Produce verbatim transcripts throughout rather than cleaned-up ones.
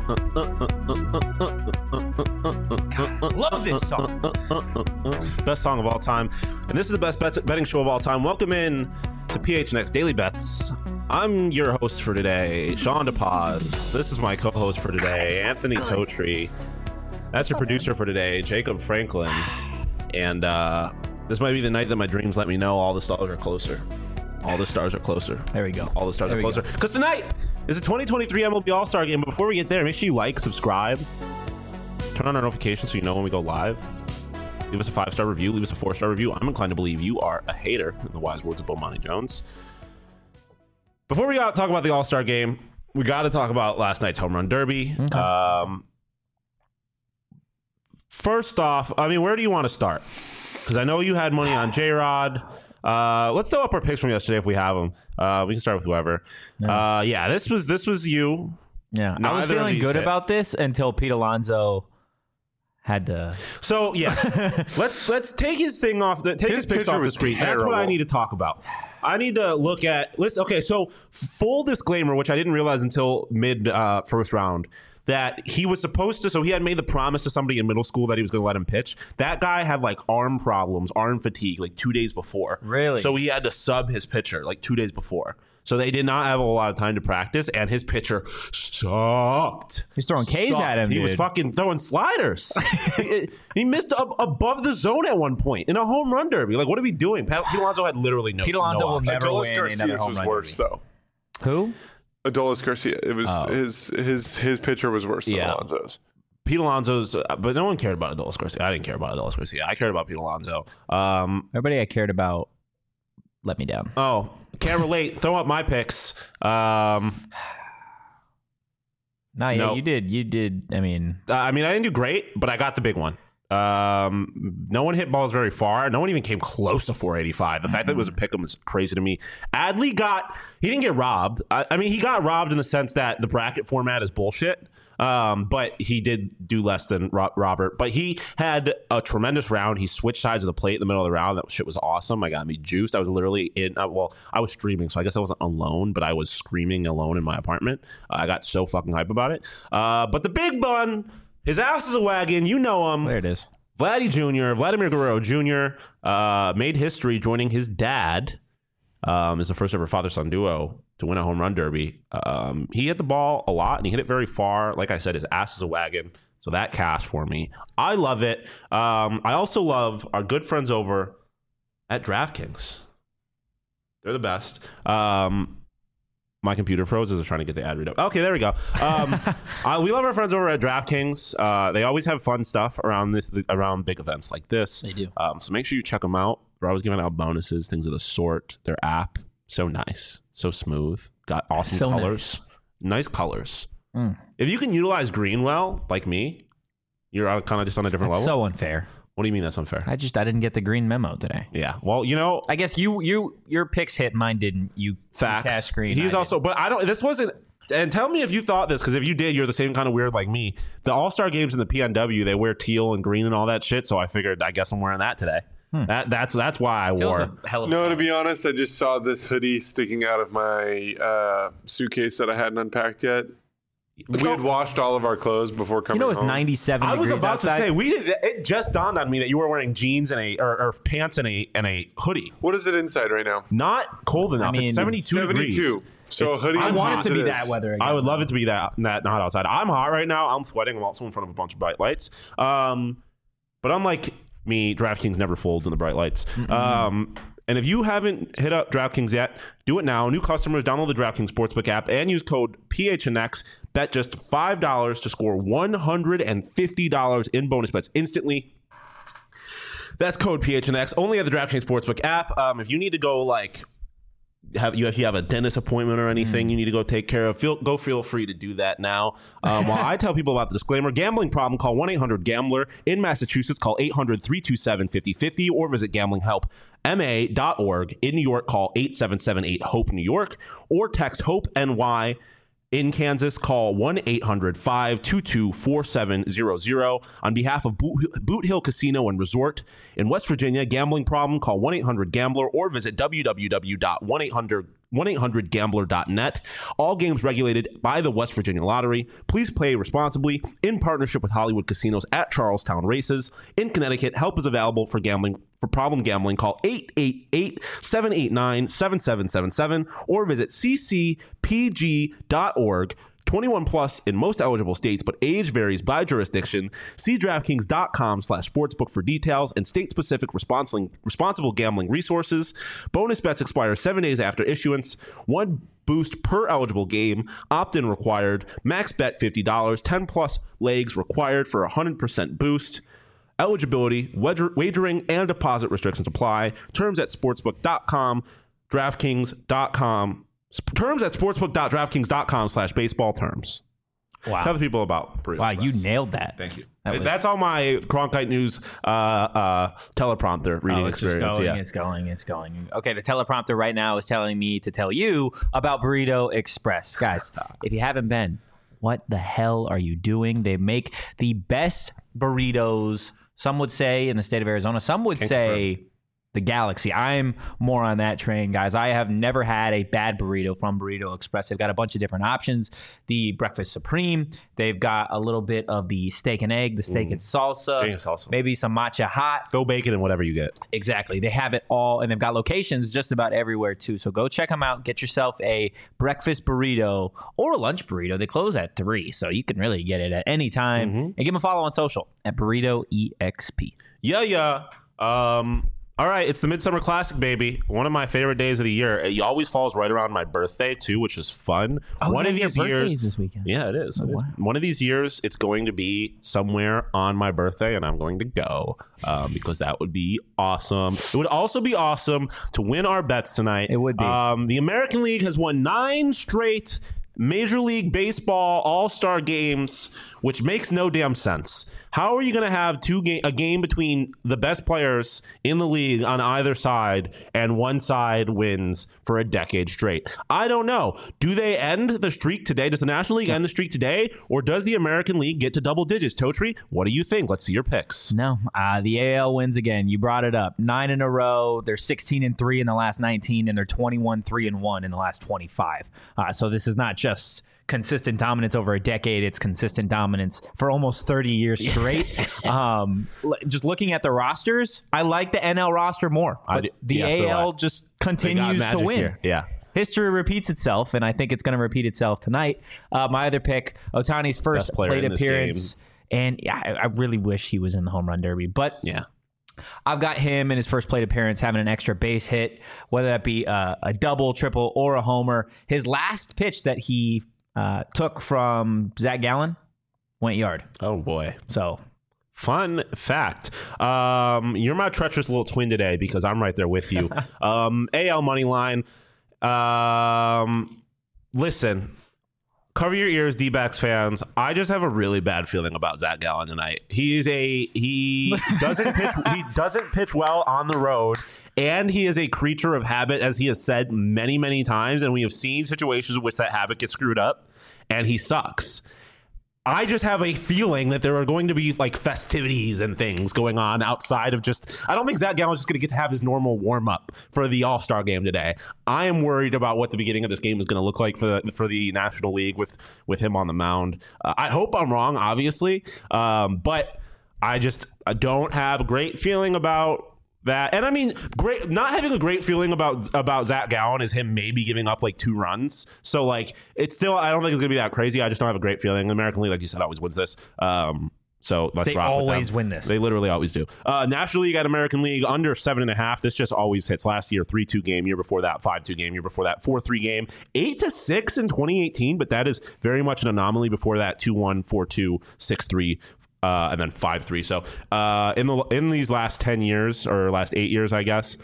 God, love this song. Best song of all time. And this is the best bet- betting show of all time. Welcome in to P H N X Daily Bets. I'm your host for today, Sean DePaz. This is my co-host for today, Anthony Totri. That's your producer for today, Jacob Franklin. And uh, this might be the night that my dreams let me know all the stars are closer. All the stars are closer. There we go. All the stars there are closer. Because tonight is the twenty twenty-three M L B All-Star Game. But before we get there, make sure you like, subscribe, turn on our notifications so you know when we go live. Leave us a five-star review. Leave us a four-star review. I'm inclined to believe you are a hater, in the wise words of Bomani Jones. Before we talk about the All-Star Game, we got to talk about last night's Home Run Derby. Okay. Um, first off, I mean, where do you want to start? Because I know you had money on J-Rod. Uh, let's throw up our picks from yesterday if we have them. Uh, we can start with whoever. Yeah, uh, yeah this was this was you. Yeah, Neither I was feeling good hit. about this until Pete Alonso had to. So yeah, let's let's take his thing off the take his, his picks off the screen. Terrible. That's what I need to talk about. I need to look at. Listen, okay, so full disclaimer, which I didn't realize until mid uh, first round. That he was supposed to, so he had made the promise to somebody in middle school that he was going to let him pitch. That guy had like arm problems, arm fatigue, like two days before. Really? So he had to sub his pitcher like two days before. So they did not have a lot of time to practice, and his pitcher sucked. He's throwing K's sucked. at him, He dude. was fucking throwing sliders. he, he missed ab- above the zone at one point in a home run derby. Like, what are we doing? Pete Alonso had literally no. Pete Alonso no will never Adolis win Garcia's another home was run worse, derby. though. Who? Adolis Garcia. It was oh. his his his pitcher was worse than yeah. Alonso's. Pete Alonso's, uh, but no one cared about Adolis Garcia. I didn't care about Adolis Garcia. I cared about Pete Alonso. Um, Everybody I cared about let me down. Oh, can't relate. Throw up my picks. Um, nah, yeah, no. you did. You did. I mean, uh, I mean, I didn't do great, but I got the big one. Um, no one hit balls very far. No one even came close to four eighty-five. The mm-hmm. fact that it was a pick 'em was crazy to me. Adley got, he didn't get robbed. I, I mean, he got robbed in the sense that the bracket format is bullshit. Um, but he did do less than Ro- Robert. But he had a tremendous round. He switched sides of the plate in the middle of the round. That shit was awesome. I got me juiced. I was literally in, uh, well, I was streaming, so I guess I wasn't alone, but I was screaming alone in my apartment. Uh, I got so fucking hype about it. Uh, but the big bun, his ass is a wagon. You know him. There it is. Vladdy Junior, Vladimir Guerrero Junior, uh, made history joining his dad um, as the first ever father-son duo to win a home run derby. Um, he hit the ball a lot, and he hit it very far. Like I said, his ass is a wagon, so that cashed for me. I love it. Um, I also love our good friends over at DraftKings. They're the best. Um, my computer froze as I was trying to get the ad read up. Okay, there we go. Um, uh, we love our friends over at DraftKings. Uh, they always have fun stuff around this, around big events like this. They do. Um, so make sure you check them out. They're always giving out bonuses, things of the sort. Their app, so nice, so smooth, got awesome so colors, nice, nice colors. Mm. If you can utilize green well, like me, you're kind of just on a different that's level. So unfair. What do you mean that's unfair? I just I didn't get the green memo today. Yeah. Well, you know, I guess you you your picks hit, mine didn't. You facts. Cash green. He's I also, didn't. but I don't. This wasn't. And tell me if you thought this, because if you did, you're the same kind of weird like me. The All-Star games in the P N W, they wear teal and green and all that shit. So I figured, I guess I'm wearing that today. Hmm. That that's that's why I Teal's wore. A hell of no, a to be honest, I just saw this hoodie sticking out of my uh, suitcase that I hadn't unpacked yet. We had washed all of our clothes before coming You know it's home. ninety-seven I was degrees about outside. to say we did. It just dawned on me that you were wearing jeans and a or, or pants and a and a hoodie. What is it inside right now? Not cold enough. I mean, it's seventy-two, seventy-two. degrees. So It's- a hoodie. I and want it jeans to be is. that weather again. I would love it to be that that not outside. I'm hot right now. I'm sweating. I'm also in front of a bunch of bright lights. Um, but unlike me, DraftKings never folds in the bright lights. Mm-hmm. Um, and if you haven't hit up DraftKings yet, do it now. New customers, download the DraftKings Sportsbook app and use code P H N X. Bet just five dollars to score one hundred fifty dollars in bonus bets instantly. That's code P H N X. Only at the DraftKings Sportsbook app. Um, if you need to go like have you if you have a dentist appointment or anything mm. you need to go take care of, feel go feel free to do that now. Um, while I tell people about the disclaimer, gambling problem, call one eight hundred gambler. In Massachusetts, call eight hundred three two seven five oh five oh or visit gambling help M A dot org. In New York, call eight seven seven eight HOPE New York or text HOPE N Y. In Kansas, call one eight hundred five two two four seven zero zero. On behalf of Boot, Boot Hill Casino and Resort in West Virginia, gambling problem, call one eight hundred gambler or visit w w w dot one eight hundred one eight hundred gambler dot net. All games regulated by the West Virginia Lottery. Please play responsibly in partnership with Hollywood Casinos at Charlestown Races. In Connecticut, help is available for gambling. For problem gambling, call eight eight eight, seven eight nine, seven seven seven seven or visit c c p g dot org. twenty-one plus in most eligible states, but age varies by jurisdiction. See DraftKings.com slash sportsbook for details and state-specific responsible, responsible gambling resources. Bonus bets expire seven days after issuance. One boost per eligible game. Opt-in required. Max bet fifty dollars. ten plus legs required for a one hundred percent boost. Eligibility, wager, wagering, and deposit restrictions apply. Terms at sportsbook dot com, DraftKings dot com. Terms at sportsbook dot draftkings dot com slash baseball terms. Wow. Tell the people about Burrito Wow, Express. you nailed that. Thank you. That was- That's all my Cronkite News uh, uh, teleprompter reading Oh, it's experience. Just going, yeah. It's going, it's going. Okay, the teleprompter right now is telling me to tell you about Burrito Express. Guys, if you haven't been, what the hell are you doing? They make the best burritos, some would say, in the state of Arizona. Some would Can't say the galaxy. I'm more on that train, guys. I have never had a bad burrito from Burrito Express. They've got a bunch of different options. The Breakfast Supreme. They've got a little bit of the steak and egg, the steak and salsa. Steak and salsa. Maybe some matcha hot. Throw bacon in whatever you get. Exactly. They have it all, and they've got locations just about everywhere, too. So go check them out. Get yourself a breakfast burrito or a lunch burrito. They close at three, so you can really get it at any time. Mm-hmm. And give them a follow on social at Burrito E X P. Yeah, yeah. Um, all right, it's the Midsummer Classic, baby. One of my favorite days of the year. It always falls right around my birthday, too, which is fun. Oh, One yeah, of your these birthday's years, this weekend. Yeah, it is. Oh, It is. wow. One of these years, it's going to be somewhere on my birthday, and I'm going to go um, because that would be awesome. It would also be awesome to win our bets tonight. It would be. Um, the American League has won nine straight Major League Baseball All-Star games, which makes no damn sense. How are you going to have two ga- a game between the best players in the league on either side and one side wins for a decade straight? I don't know. Do they end the streak today? Does the National League end the streak today? Or does the American League get to double digits? Totri, what do you think? Let's see your picks. No, uh, the A L wins again. You brought it up. Nine in a row. They're sixteen and three in the last nineteen, and they're twenty-one three and one in the last twenty-five. Uh, so this is not just consistent dominance over a decade. It's consistent dominance for almost thirty years straight. um, l- just looking at the rosters, I like the N L roster more. I But do- the yeah, so do A L I. just They got continues magic to win. here. Yeah. History repeats itself, and I think it's going to repeat itself tonight. Uh, my other pick, Ohtani's first Best player plate in this appearance. And yeah, I, I really wish he was in the home run derby. But Yeah. I've got him in his first plate appearance having an extra base hit, whether that be a, a double, triple, or a homer. His last pitch that he uh, took from Zach Gallen went yard. Oh, boy. So Fun fact. Um, you're my treacherous little twin today because I'm right there with you. um, A L money line. Um, listen, cover your ears, D-backs fans. I just have a really bad feeling about Zach Gallen tonight. He is a he doesn't pitch he doesn't pitch well on the road, and he is a creature of habit, as he has said many many times. And we have seen situations in which that habit gets screwed up, and he sucks. I just have a feeling that there are going to be like festivities and things going on outside of just. I don't think Zach Gallen's just going to get to have his normal warm up for the All-Star game today. I am worried about what the beginning of this game is going to look like for the for the National League with with him on the mound. Uh, I hope I'm wrong, obviously, um, but I just I don't have a great feeling about that. And I mean, great not having a great feeling about about Zach Gallen is him maybe giving up like two runs. So like it's still I don't think it's gonna be that crazy. I just don't have a great feeling. The American League, like you said, always wins this. Um so let's they rock with always them. win this. They literally always do. Uh National League at American League under seven and a half. This just always hits. Last year, three two game, year before that, five two game, year before that, four three game, eight to six in twenty eighteen, but that is very much an anomaly. Before that, two one, four two, six three. Uh, and then five three. So uh, in the in these last ten years or last eight years, I guess,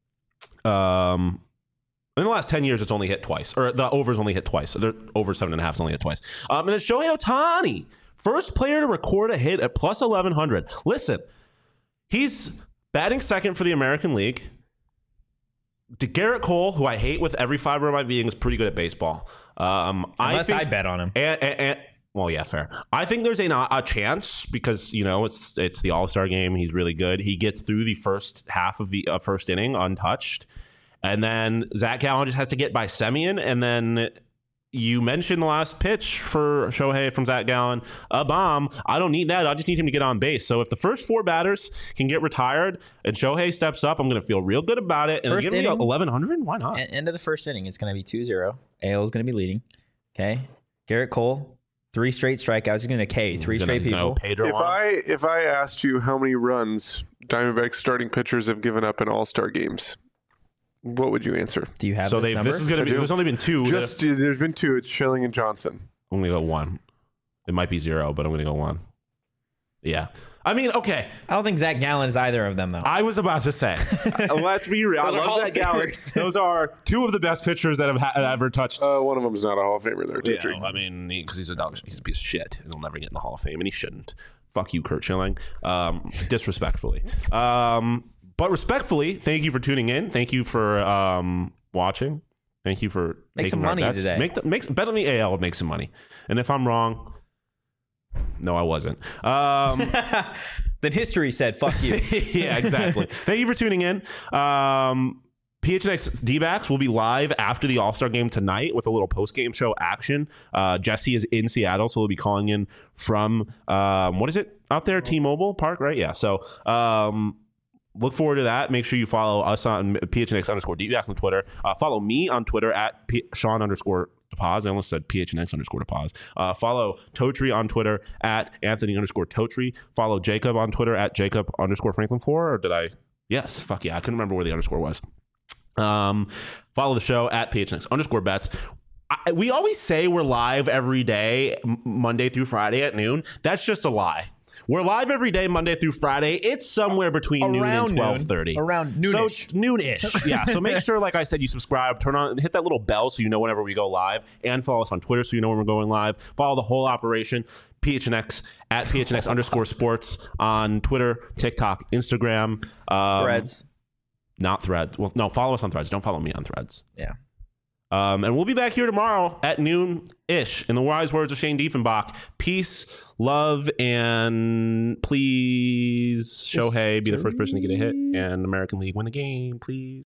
um, in the last ten years, it's only hit twice, or the over's only hit twice. So they're over seven and a half is only hit twice. Um, and it's Shohei Ohtani, first player to record a hit at plus eleven hundred. Listen, he's batting second for the American League. Garrett Cole, who I hate with every fiber of my being, is pretty good at baseball. Um, Unless I, think, I bet on him. And, and, and well, yeah, fair. I think there's a a chance because you know it's it's the All-Star game. He's really good. He gets through the first half of the uh, first inning untouched, And then Zach Gallen just has to get by Semien. And then you mentioned the last pitch for Shohei from Zach Gallen, a bomb. I don't need that. I just need him to get on base. So if the first four batters can get retired and Shohei steps up, I'm going to feel real good about it. And First give me inning, eleven hundred? Why not? End of the first inning, it's going to be two zero. A L is going to be leading. Okay. Garrett Cole, three straight strikeouts. He's going to K, three He's straight gonna, people. Pedro If on. I if I asked you how many runs Diamondbacks starting pitchers have given up in All Star games, what would you answer? Do you have so this they number? this is going to I be. do. There's only been two. Just there's been two. It's Schilling and Johnson. I'm going to go one. It might be zero, but I'm going to go one. Yeah. I mean, okay. I don't think Zach Gallen is either of them, though. I was about to say, uh, let's be real. I Those are love Hall Zach of Gallen. Famers. Those are two of the best pitchers that have ha- ever touched. Uh, one of them's not a Hall of Famer there, Yeah, Totri. I mean, because he's a dog, he's a piece of shit, and he'll never get in the Hall of Fame, and he shouldn't. Fuck you, Kurt Schilling. Um, disrespectfully, um, but respectfully, thank you for tuning in. Thank you for um, watching. Thank you for Make taking some our money bets. today. Make the, make bet on the A L would make some money, and if I'm wrong, no, I wasn't. Um, Then history said, fuck you. yeah, exactly. Thank you for tuning in. Um, P H N X D-backs will be live after the All-Star game tonight with a little post-game show action. Uh, Jesse is in Seattle, so we'll be calling in from, um, what is it out there? T-Mobile Park, right? Yeah, so um, look forward to that. Make sure you follow us on P H N X underscore D-backs on Twitter. Uh, follow me on Twitter at P- Sean underscore DePaz. I almost said P H N X underscore DePaz. Uh, follow Totri on Twitter at Anthony underscore Totri. Follow Jacob on Twitter at Jacob underscore Franklin four. Or did I? Yes. Fuck yeah. I couldn't remember where the underscore was. Um, follow the show at P H N X underscore bets. I, we always say we're live every day, m- Monday through Friday at noon. That's just a lie. We're live every day, Monday through Friday. It's somewhere between noon Around and twelve thirty. noon. Around noonish. So noonish. Yeah. So make sure, like I said, you subscribe, turn on, hit that little bell so you know whenever we go live, and follow us on Twitter so you know when we're going live. Follow the whole operation. P H N X at P H N X underscore sports on Twitter, TikTok, Instagram, um, Threads. Not Threads. Well, no, follow us on Threads. Don't follow me on Threads. Yeah. Um, and we'll be back here tomorrow at noon-ish. In the wise words of Shane Diefenbach, peace, love, and please, Shohei, be the first person to get a hit, and American League win the game, please.